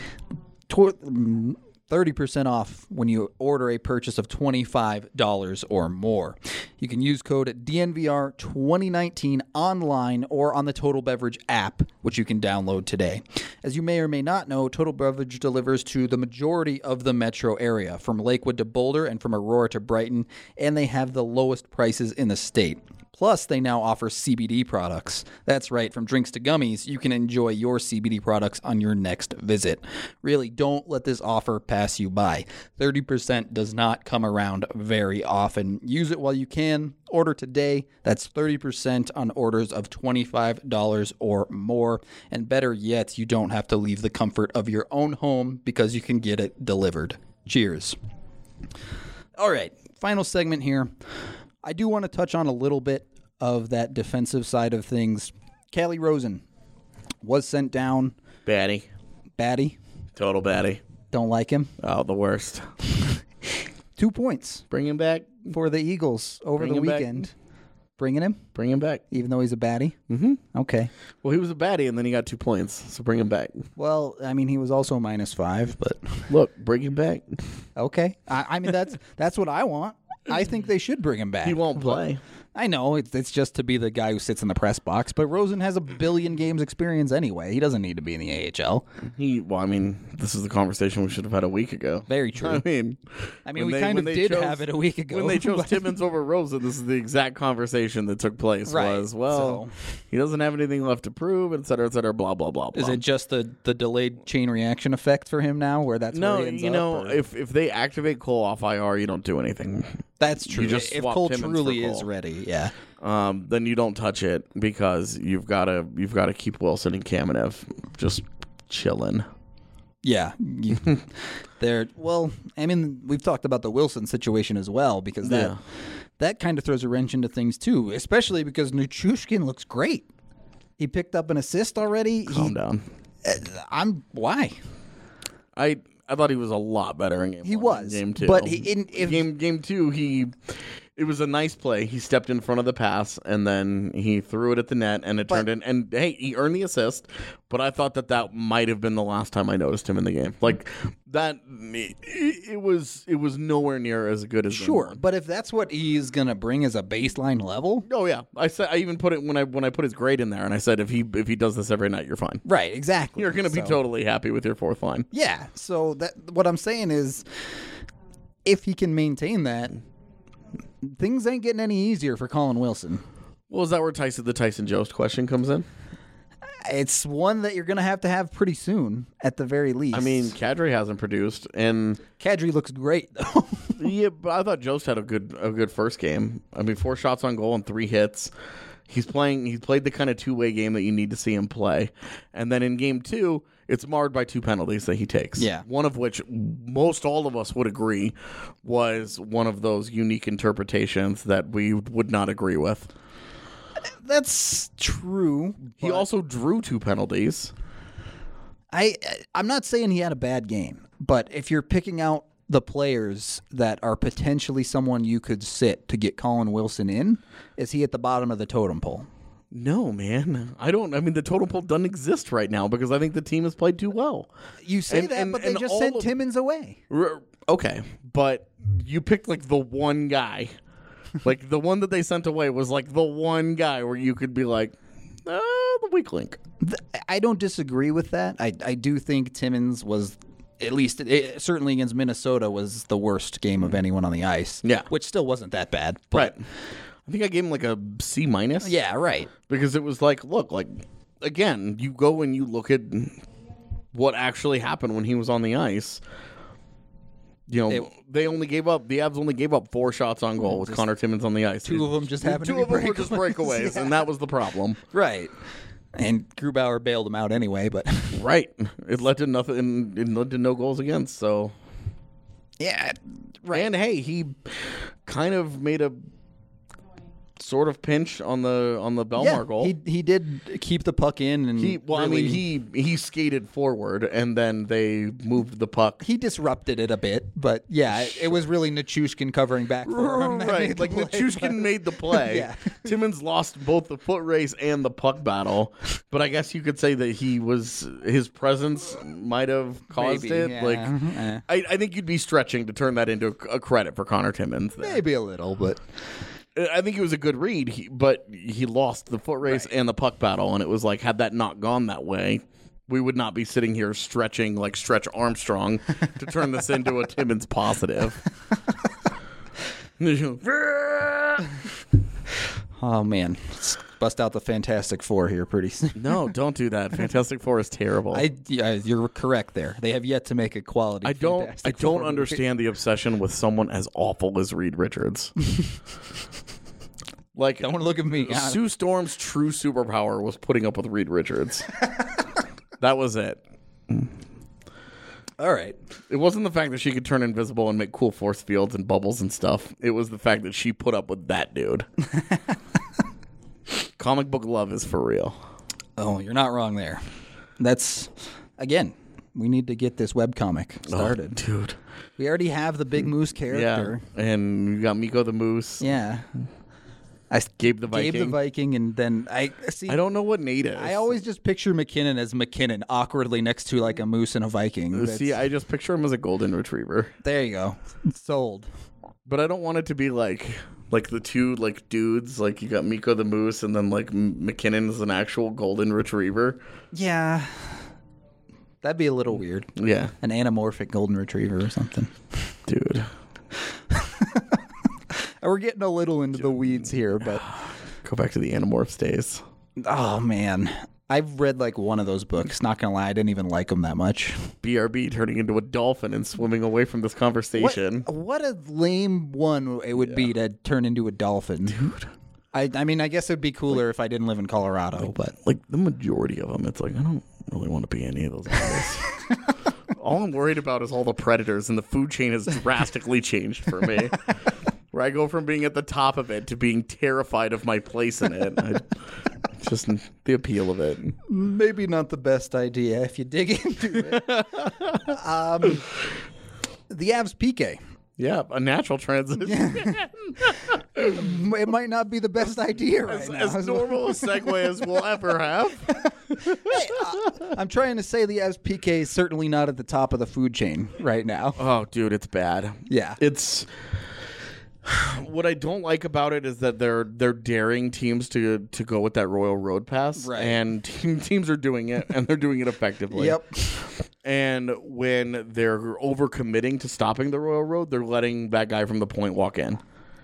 Speaker 1: 30% off when you order a purchase of $25 or more. You can use code DNVR2019 online or on the Total Beverage app, which you can download today. As you may or may not know, Total Beverage delivers to the majority of the metro area, from Lakewood to Boulder and from Aurora to Brighton, and they have the lowest prices in the state. Plus, they now offer CBD products. That's right, from drinks to gummies, you can enjoy your CBD products on your next visit. Really, don't let this offer pass you by. 30% does not come around very often. Use it while you can. Order today. That's 30% on orders of $25 or more. And better yet, you don't have to leave the comfort of your own home because you can get it delivered. Cheers. All right, final segment here. I do want to touch on a little bit of that defensive side of things. Calle Rosen was sent down.
Speaker 3: Batty.
Speaker 1: Total
Speaker 3: batty.
Speaker 1: Don't like him.
Speaker 3: Oh, the worst.
Speaker 1: 2 points.
Speaker 3: Bring him back.
Speaker 1: For the Eagles over the weekend. Bringing him?
Speaker 3: Bring him back.
Speaker 1: Even though he's a baddie?
Speaker 3: Mm-hmm.
Speaker 1: Okay.
Speaker 3: Well, he was a baddie, and then he got 2 points, so bring him back.
Speaker 1: Well, I mean, he was also -5, but...
Speaker 3: Look, bring him back.
Speaker 1: Okay. I mean, that's what I want. I think they should bring him back.
Speaker 3: He won't play.
Speaker 1: I know, it's just to be the guy who sits in the press box, but Rosen has a billion games experience anyway. He doesn't need to be in the AHL.
Speaker 3: Well, I mean, this is the conversation we should have had a week ago.
Speaker 1: Very true.
Speaker 3: I mean,
Speaker 1: we kind of did have it a week ago.
Speaker 3: When they chose Timmins over Rosen, this is the exact conversation that took place.
Speaker 1: Right.
Speaker 3: He doesn't have anything left to prove, et cetera, blah, blah, blah, blah.
Speaker 1: Is it just the delayed chain reaction effect for him now, where that's where he ends up?
Speaker 3: If they activate Cole off IR, you don't do anything.
Speaker 1: That's true.
Speaker 3: You just
Speaker 1: if
Speaker 3: swap
Speaker 1: Cole
Speaker 3: Timmins
Speaker 1: truly
Speaker 3: for
Speaker 1: is
Speaker 3: Cole.
Speaker 1: ready, yeah.
Speaker 3: Then you don't touch it because you've got to keep Wilson and Kamenev just chilling.
Speaker 1: Yeah, they're well. I mean, we've talked about the Wilson situation as well because that kind of throws a wrench into things too, especially because Nichushkin looks great. He picked up an assist already.
Speaker 3: Calm down.
Speaker 1: Why?
Speaker 3: I thought he was a lot better in game
Speaker 1: He
Speaker 3: one
Speaker 1: was,
Speaker 3: than game 2.
Speaker 1: but
Speaker 3: game 2, it was a nice play. He stepped in front of the pass, and then he threw it at the net, and it turned in. And, hey, he earned the assist, but I thought that might have been the last time I noticed him in the game. Like, that, it was nowhere near as good as
Speaker 1: sure,
Speaker 3: game one.
Speaker 1: but if that's what he's going to bring as a baseline level.
Speaker 3: Oh, yeah. I even put it when I put his grade in there, and I said, if he does this every night, you're fine.
Speaker 1: Right, exactly.
Speaker 3: You're going to be totally happy with your fourth line.
Speaker 1: Yeah, so what I'm saying is, if he can maintain that, things ain't getting any easier for Colin Wilson.
Speaker 3: Well, is that where the Tyson Jost question comes in?
Speaker 1: It's one that you're going to have pretty soon, at the very least.
Speaker 3: I mean, Kadri hasn't produced, and
Speaker 1: Kadri looks great, though.
Speaker 3: yeah, but I thought Jost had a good first game. I mean, 4 shots on goal and 3 hits. He's played the kind of two-way game that you need to see him play. And then in game 2, it's marred by 2 penalties that he takes.
Speaker 1: Yeah.
Speaker 3: One of which most all of us would agree was one of those unique interpretations that we would not agree with.
Speaker 1: That's true.
Speaker 3: He also drew 2 penalties.
Speaker 1: I'm not saying he had a bad game, but if you're picking out the players that are potentially someone you could sit to get Colin Wilson in, is he at the bottom of the totem pole?
Speaker 3: No, man. I mean, the totem pole doesn't exist right now because I think the team has played too well.
Speaker 1: You say but they just sent Timmins away.
Speaker 3: Okay, but you picked like the one guy. Like the one that they sent away was like the one guy where you could be like, the weak link.
Speaker 1: I don't disagree with that. I do think Timmins was, at least certainly against Minnesota, was the worst game of anyone on the ice.
Speaker 3: Yeah.
Speaker 1: Which still wasn't that bad. But
Speaker 3: Right. I think I gave him like a C-.
Speaker 1: Yeah, right.
Speaker 3: Because it was like, look, like, again, you go and you look at what actually happened when he was on the ice. You know, the Avs only gave up 4 shots on goal with Connor Timmins on the ice.
Speaker 1: 2 of them just happened to be
Speaker 3: Two of them were just breakaways,
Speaker 1: Yeah.
Speaker 3: and that was the problem.
Speaker 1: Right. And Grubauer bailed him out anyway, but
Speaker 3: Right. It led to nothing. It led to no goals against, so.
Speaker 1: yeah, right.
Speaker 3: And hey, he kind of made a sort of pinch on the Belmar goal.
Speaker 1: He did keep the puck in, and
Speaker 3: he skated forward and then they moved the puck.
Speaker 1: he disrupted it a bit, but yeah, it was really Nichushkin covering back for him. that made
Speaker 3: Right,
Speaker 1: the
Speaker 3: like
Speaker 1: play,
Speaker 3: Nichushkin
Speaker 1: but-
Speaker 3: made the play.
Speaker 1: Yeah.
Speaker 3: Timmins lost both the foot race and the puck battle, but I guess you could say that his presence might have caused
Speaker 1: Maybe,
Speaker 3: it.
Speaker 1: yeah.
Speaker 3: Like, I think you'd be stretching to turn that into a credit for Connor Timmins. There.
Speaker 1: Maybe a little, but
Speaker 3: I think it was a good read, but he lost the foot race and the puck battle, and it was like, had that not gone that way, we would not be sitting here stretching like Stretch Armstrong to turn this into a Timmins positive.
Speaker 1: oh man, let's bust out the Fantastic Four here pretty soon.
Speaker 3: No, don't do that. Fantastic Four is terrible.
Speaker 1: You're correct there. They have yet to make a quality.
Speaker 3: I don't
Speaker 1: Fantastic Four movie.
Speaker 3: understand the obsession with someone as awful as Reed Richards. Like,
Speaker 1: Don't look at me.
Speaker 3: Sue Storm's true superpower was putting up with Reed Richards. That was it.
Speaker 1: All right.
Speaker 3: It wasn't the fact that she could turn invisible and make cool force fields and bubbles and stuff. It was the fact that she put up with that dude. Comic book love is for real.
Speaker 1: Oh, you're not wrong there. That's, again, we need to get this webcomic started.
Speaker 3: Oh, dude.
Speaker 1: We already have the Big Moose character.
Speaker 3: Yeah, and you got Miko the Moose.
Speaker 1: Yeah.
Speaker 3: Gabe the Viking.
Speaker 1: Gabe the Viking, and then I
Speaker 3: don't know what Nate is.
Speaker 1: I always just picture McKinnon as McKinnon, awkwardly next to like a moose and a Viking.
Speaker 3: See, I just picture him as a golden retriever.
Speaker 1: There you go. Sold.
Speaker 3: But I don't want it to be like the two like dudes. Like you got Miko the Moose, and then like McKinnon is an actual golden retriever.
Speaker 1: Yeah. That'd be a little weird.
Speaker 3: Yeah.
Speaker 1: An anamorphic golden retriever or something.
Speaker 3: Dude.
Speaker 1: We're getting a little into the weeds here, but
Speaker 3: Go back to the Animorphs days.
Speaker 1: oh man. I've read like one of those books. Not gonna lie, I didn't even like them that much.
Speaker 3: BRB turning into a dolphin and swimming away from this conversation.
Speaker 1: What a lame one it would be to turn into a dolphin. Dude. I mean, I guess it'd be cooler if I didn't live in Colorado, but
Speaker 3: Like the majority of them, it's like, I don't really want to be any of those animals. All I'm worried about is all the predators, and the food chain has drastically changed for me. where I go from being at the top of it to being terrified of my place in it. Just the appeal of it.
Speaker 1: Maybe not the best idea if you dig into it. The Avs PK.
Speaker 3: Yeah, a natural transition.
Speaker 1: It might not be the best idea right now.
Speaker 3: As normal a segue as we'll ever have.
Speaker 1: I'm trying to say the Avs PK is certainly not at the top of the food chain right now.
Speaker 3: Oh, dude, it's bad.
Speaker 1: Yeah.
Speaker 3: It's what I don't like about it is that they're daring teams to go with that Royal Road pass,
Speaker 1: right?
Speaker 3: And teams are doing it, and they're doing it effectively.
Speaker 1: Yep.
Speaker 3: And when they're overcommitting to stopping the Royal Road, they're letting that guy from the point walk in.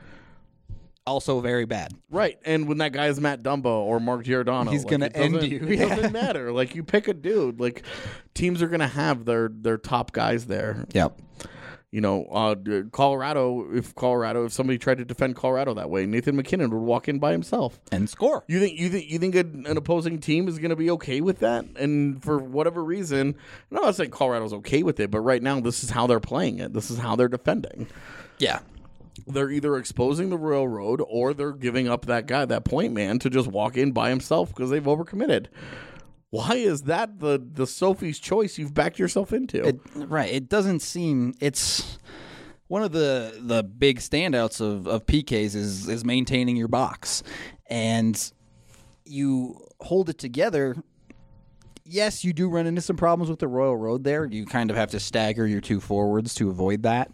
Speaker 1: Also very bad.
Speaker 3: Right. And when that guy is Matt Dumba or Mark Giordano,
Speaker 1: he's going to end you.
Speaker 3: It doesn't matter. Like, you pick a dude. Like, teams are going to have their top guys there.
Speaker 1: Yep.
Speaker 3: You know, Colorado, if somebody tried to defend Colorado that way, Nathan McKinnon would walk in by himself
Speaker 1: and score.
Speaker 3: You think an opposing team is going to be okay with that? And for whatever reason, I'm not saying Colorado's okay with it, but right now this is how they're playing it. This is how they're defending.
Speaker 1: Yeah.
Speaker 3: They're either exposing the Royal Road or they're giving up that guy, that point man, to just walk in by himself because they've overcommitted. Why is that the Sophie's choice you've backed yourself into?
Speaker 1: Right. It doesn't seem... It's one of the big standouts of PKs is maintaining your box. And you hold it together. Yes, you do run into some problems with the Royal Road there. You kind of have to stagger your two forwards to avoid that.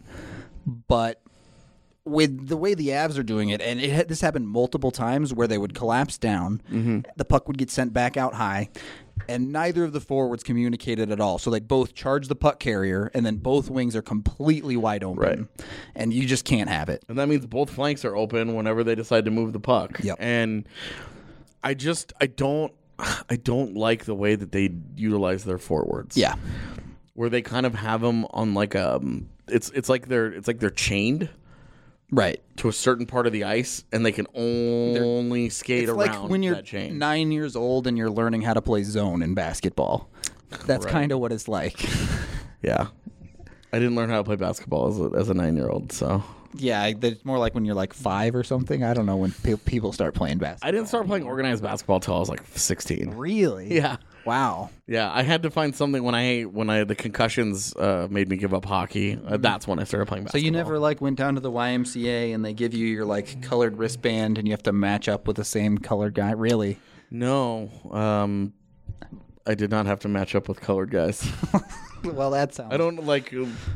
Speaker 1: But with the way the Avs are doing it, and this happened multiple times where they would collapse down, the puck would get sent back out high, and neither of the forwards communicated at all. So they both charge the puck carrier, and then both wings are completely wide open.
Speaker 3: Right.
Speaker 1: And you just can't have it.
Speaker 3: And that means both flanks are open whenever they decide to move the puck.
Speaker 1: Yep.
Speaker 3: And I don't like the way that they utilize their forwards.
Speaker 1: Yeah.
Speaker 3: Where they kind of have them on like it's like they're chained.
Speaker 1: Right.
Speaker 3: To a certain part of the ice, and they can only skate around
Speaker 1: like when you're
Speaker 3: that chain.
Speaker 1: 9 years old and you're learning how to play zone in basketball. That's kind of what it's like.
Speaker 3: Yeah. I didn't learn how to play basketball as a 9-year-old, so...
Speaker 1: Yeah, it's more like when you're like 5 or something. I don't know when people start playing basketball.
Speaker 3: I didn't start playing organized basketball until I was like 16.
Speaker 1: Really?
Speaker 3: Yeah.
Speaker 1: Wow.
Speaker 3: Yeah, I had to find something when the concussions made me give up hockey. That's when I started playing basketball.
Speaker 1: So you never went down to the YMCA and they give you your colored wristband and you have to match up with the same colored guy? Really?
Speaker 3: No. I did not have to match up with colored guys.
Speaker 1: Well, that sounds...
Speaker 3: I don't like...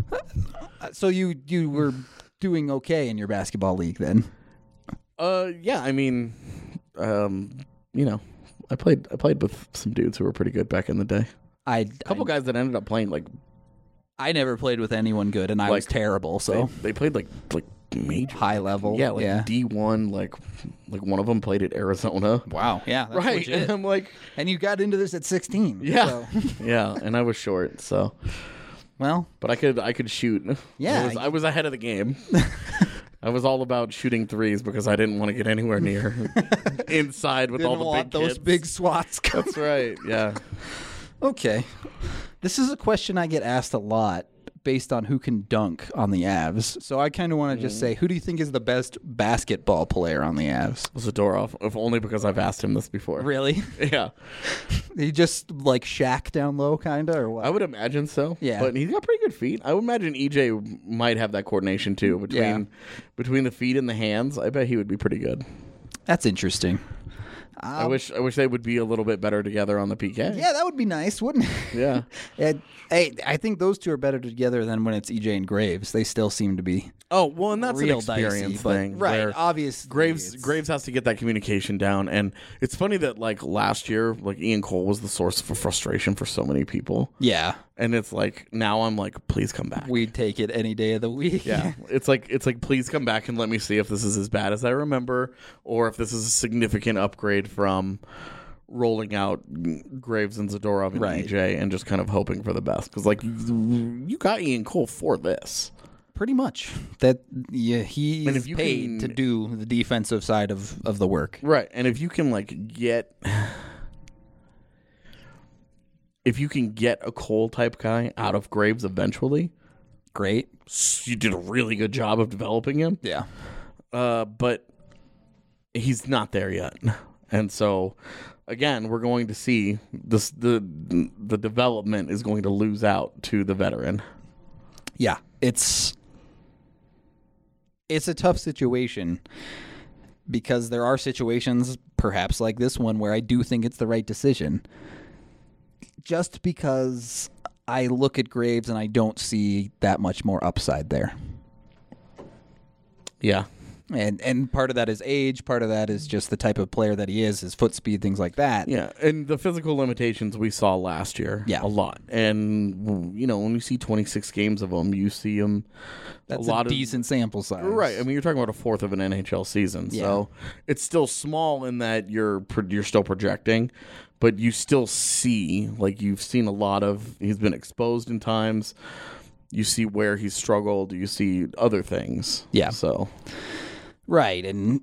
Speaker 1: So you were doing okay in your basketball league then?
Speaker 3: Yeah, I mean, you know, I played with some dudes who were pretty good back in the day. A couple guys that ended up playing
Speaker 1: I never played with anyone good, and I was terrible. So
Speaker 3: they played like major
Speaker 1: high level,
Speaker 3: yeah, D1. Like one of them played at Arizona.
Speaker 1: Wow, yeah, that's
Speaker 3: right.
Speaker 1: legit.
Speaker 3: And I'm like,
Speaker 1: and you got into this at 16.
Speaker 3: Yeah,
Speaker 1: so.
Speaker 3: Yeah, and I was short, so.
Speaker 1: Well,
Speaker 3: but I could shoot.
Speaker 1: Yeah,
Speaker 3: I was ahead of the game. I was all about shooting threes because I didn't want to get anywhere near inside with all the big
Speaker 1: those
Speaker 3: kids.
Speaker 1: big swats.
Speaker 3: That's right. Yeah.
Speaker 1: Okay. This is a question I get asked a lot based on who can dunk on the Avs. So I kind of want to just say, who do you think is the best basketball player on the Avs?
Speaker 3: Zadorov, if only because I've asked him this before.
Speaker 1: Really?
Speaker 3: Yeah.
Speaker 1: He just like Shaq down low, kind of, or what?
Speaker 3: I would imagine so.
Speaker 1: Yeah.
Speaker 3: But he's got pretty good feet. I would imagine EJ might have that coordination too between the feet and the hands. I bet he would be pretty good.
Speaker 1: That's interesting.
Speaker 3: I wish they would be a little bit better together on the PK.
Speaker 1: Yeah, that would be nice, wouldn't it?
Speaker 3: Yeah.
Speaker 1: I think those two are better together than when it's EJ and Graves. They still seem to be.
Speaker 3: Oh, well, and that's
Speaker 1: real
Speaker 3: an experience thing.
Speaker 1: Right, obviously.
Speaker 3: Graves has to get that communication down. And it's funny that, last year, Ian Cole was the source for frustration for so many people.
Speaker 1: Yeah.
Speaker 3: And it's now I'm please come back.
Speaker 1: We'd take it any day of the week.
Speaker 3: Yeah. It's like, please come back and let me see if this is as bad as I remember or if this is a significant upgrade from rolling out Graves and Zadorov and EJ and just kind of hoping for the best. Because, you got Ian Cole for this.
Speaker 1: Pretty much. He is paid to do the defensive side of the work.
Speaker 3: Right. And if you can, get... If you can get a Cole-type guy out of Graves eventually...
Speaker 1: Great.
Speaker 3: You did a really good job of developing him.
Speaker 1: Yeah.
Speaker 3: but he's not there yet. And so, again, we're going to see this. The development is going to lose out to the veteran.
Speaker 1: Yeah, it's a tough situation because there are situations, perhaps like this one, where I do think it's the right decision. Just because I look at Graves and I don't see that much more upside there.
Speaker 3: Yeah.
Speaker 1: And part of that is age, part of that is just the type of player that he is, his foot speed, things like that.
Speaker 3: Yeah, and the physical limitations we saw last year, a lot. And, you know, when you see 26 games of him, you see him
Speaker 1: That's a decent sample size.
Speaker 3: Right. I mean, you're talking about a fourth of an NHL season. Yeah. So it's still small in that you're still projecting, but you still see, like, you've seen a lot of, he's been exposed in times. You see where he's struggled. You see other things.
Speaker 1: Yeah.
Speaker 3: So...
Speaker 1: Right, and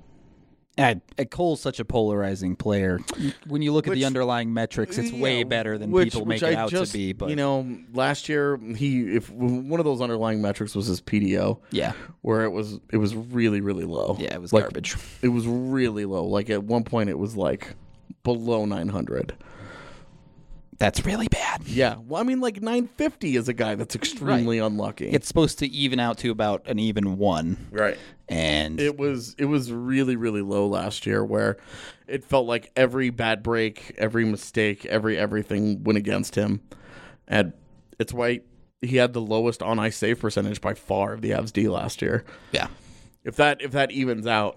Speaker 1: Cole's such a polarizing player. When you look at the underlying metrics, it's way better than people make it out to be. But
Speaker 3: you know, last year if one of those underlying metrics was his PDO, where it was really, really low.
Speaker 1: Yeah, it was
Speaker 3: like,
Speaker 1: garbage.
Speaker 3: It was really low. Like at one point, it was like below 900.
Speaker 1: That's really bad.
Speaker 3: Yeah. Well, I mean, like 950 is a guy that's extremely unlucky.
Speaker 1: It's supposed to even out to about an even 1.
Speaker 3: Right.
Speaker 1: And
Speaker 3: it was really, really low last year where it felt like every bad break, every mistake, everything went against him. And it's why he had the lowest on ice save percentage by far of the Avs D last year.
Speaker 1: Yeah.
Speaker 3: If that evens out,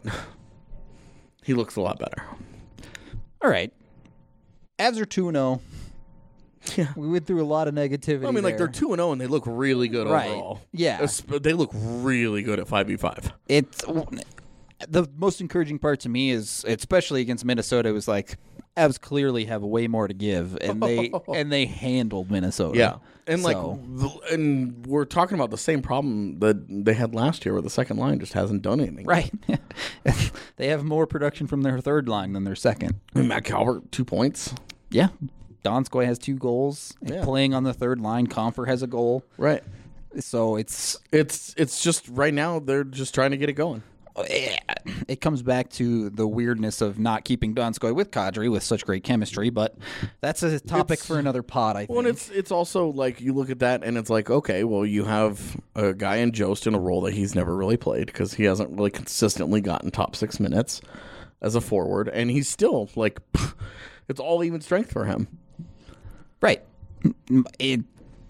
Speaker 3: he looks a lot better.
Speaker 1: All right. Avs are 2-0.
Speaker 3: Yeah.
Speaker 1: We went through a lot of negativity.
Speaker 3: I mean, like, they're 2-0 and they look really good overall.
Speaker 1: Yeah.
Speaker 3: They look really good at 5v5.
Speaker 1: It's the most encouraging part to me is, especially against Minnesota, was like Avs clearly have way more to give, and they handled Minnesota.
Speaker 3: Yeah. And and we're talking about the same problem that they had last year where the second line just hasn't done anything.
Speaker 1: Right. They have more production from their third line than their second.
Speaker 3: I mean, Matt Calvert, 2 points.
Speaker 1: Yeah. Donskoy has 2 goals. Yeah. Playing on the third line, Comfer has a goal.
Speaker 3: Right.
Speaker 1: So it's
Speaker 3: just right now they're just trying to get it going.
Speaker 1: It comes back to the weirdness of not keeping Donskoy with Kadri with such great chemistry, but that's a topic for another pod, I think.
Speaker 3: Well, and it's also like you look at that and it's like, okay, well, you have a guy in Jost in a role that he's never really played because he hasn't really consistently gotten top 6 minutes as a forward, and he's still like, it's all even strength for him.
Speaker 1: Right. The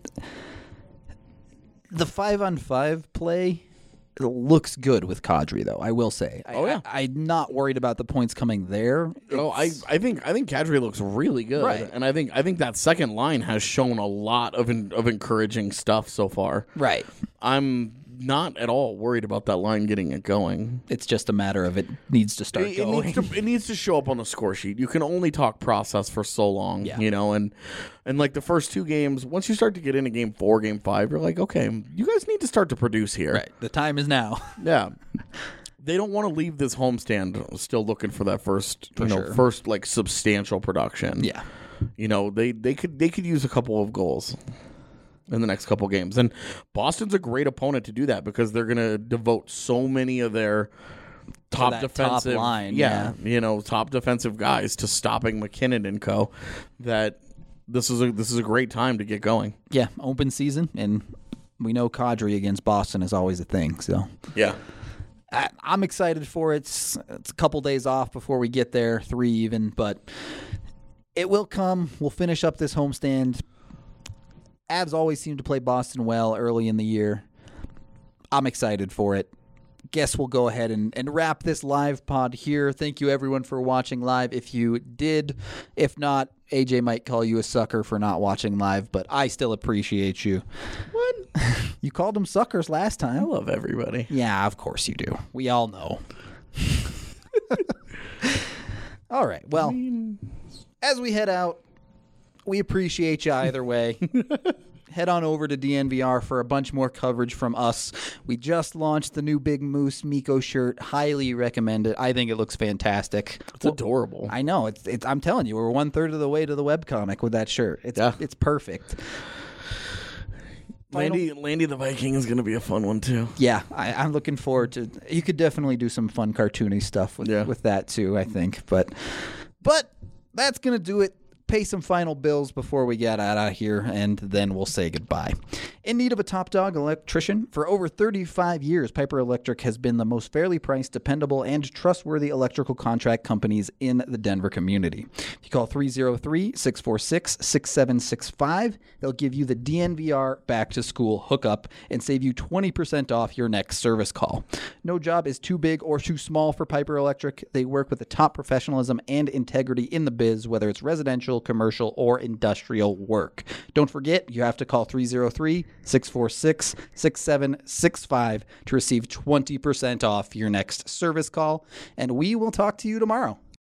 Speaker 1: 5-on-5 play looks good with Kadri, though, I will say. I'm not worried about the points coming there.
Speaker 3: I think Kadri looks really good,
Speaker 1: right.
Speaker 3: And I think that second line has shown a lot of encouraging stuff so far.
Speaker 1: Right.
Speaker 3: I'm not at all worried about that line getting it going.
Speaker 1: It's just a matter of it needs to start going.
Speaker 3: It needs to show up on the score sheet. You can only talk process for so long, you know, and like the first 2 games, once you start to get into game 4, game 5, you're like, okay, you guys need to start to produce here.
Speaker 1: Right. The time is now.
Speaker 3: Yeah. They don't want to leave this homestand still looking for that first like substantial production.
Speaker 1: Yeah.
Speaker 3: You know, they could use a couple of goals in the next couple games. And Boston's a great opponent to do that because they're going to devote so many of their top defensive
Speaker 1: top line,
Speaker 3: you know, top defensive guys to stopping McKinnon and co. That this is a great time to get going.
Speaker 1: Yeah, open season, and we know Kadri against Boston is always a thing. So
Speaker 3: yeah,
Speaker 1: I'm excited for it. It's a couple days off before we get there, 3 even, but it will come. We'll finish up this homestand. Avs always seem to play Boston well early in the year. I'm excited for it. Guess we'll go ahead and wrap this live pod here. Thank you, everyone, for watching live. If you did, if not, AJ might call you a sucker for not watching live, but I still appreciate you.
Speaker 3: What?
Speaker 1: You called them suckers last time.
Speaker 3: I love everybody.
Speaker 1: Yeah, of course you do. We all know. All right. Well, as we head out, we appreciate you either way. Head on over to DNVR for a bunch more coverage from us. We just launched the new Big Moose Mikko shirt. Highly recommend it. I think it looks fantastic.
Speaker 3: It's adorable.
Speaker 1: I know. It's. I'm telling you, we're 1/3 of the way to the webcomic with that shirt. It's perfect.
Speaker 3: Landy the Viking is going to be a fun one too.
Speaker 1: Yeah, I'm looking forward to. You could definitely do some fun cartoony stuff with that too, I think. But that's gonna do it. Pay some final bills before we get out of here, and then we'll say goodbye. In need of a top dog electrician? For over 35 years, Piper Electric has been the most fairly priced, dependable, and trustworthy electrical contract companies in the Denver community. If you call 303-646-6765, they'll give you the DNVR back to school hookup and save you 20% off your next service call. No job is too big or too small for Piper Electric. They work with the top professionalism and integrity in the biz, whether it's residential, commercial, or industrial work. Don't forget, you have to call 303-646-6765 to receive 20% off your next service call, and we will talk to you tomorrow.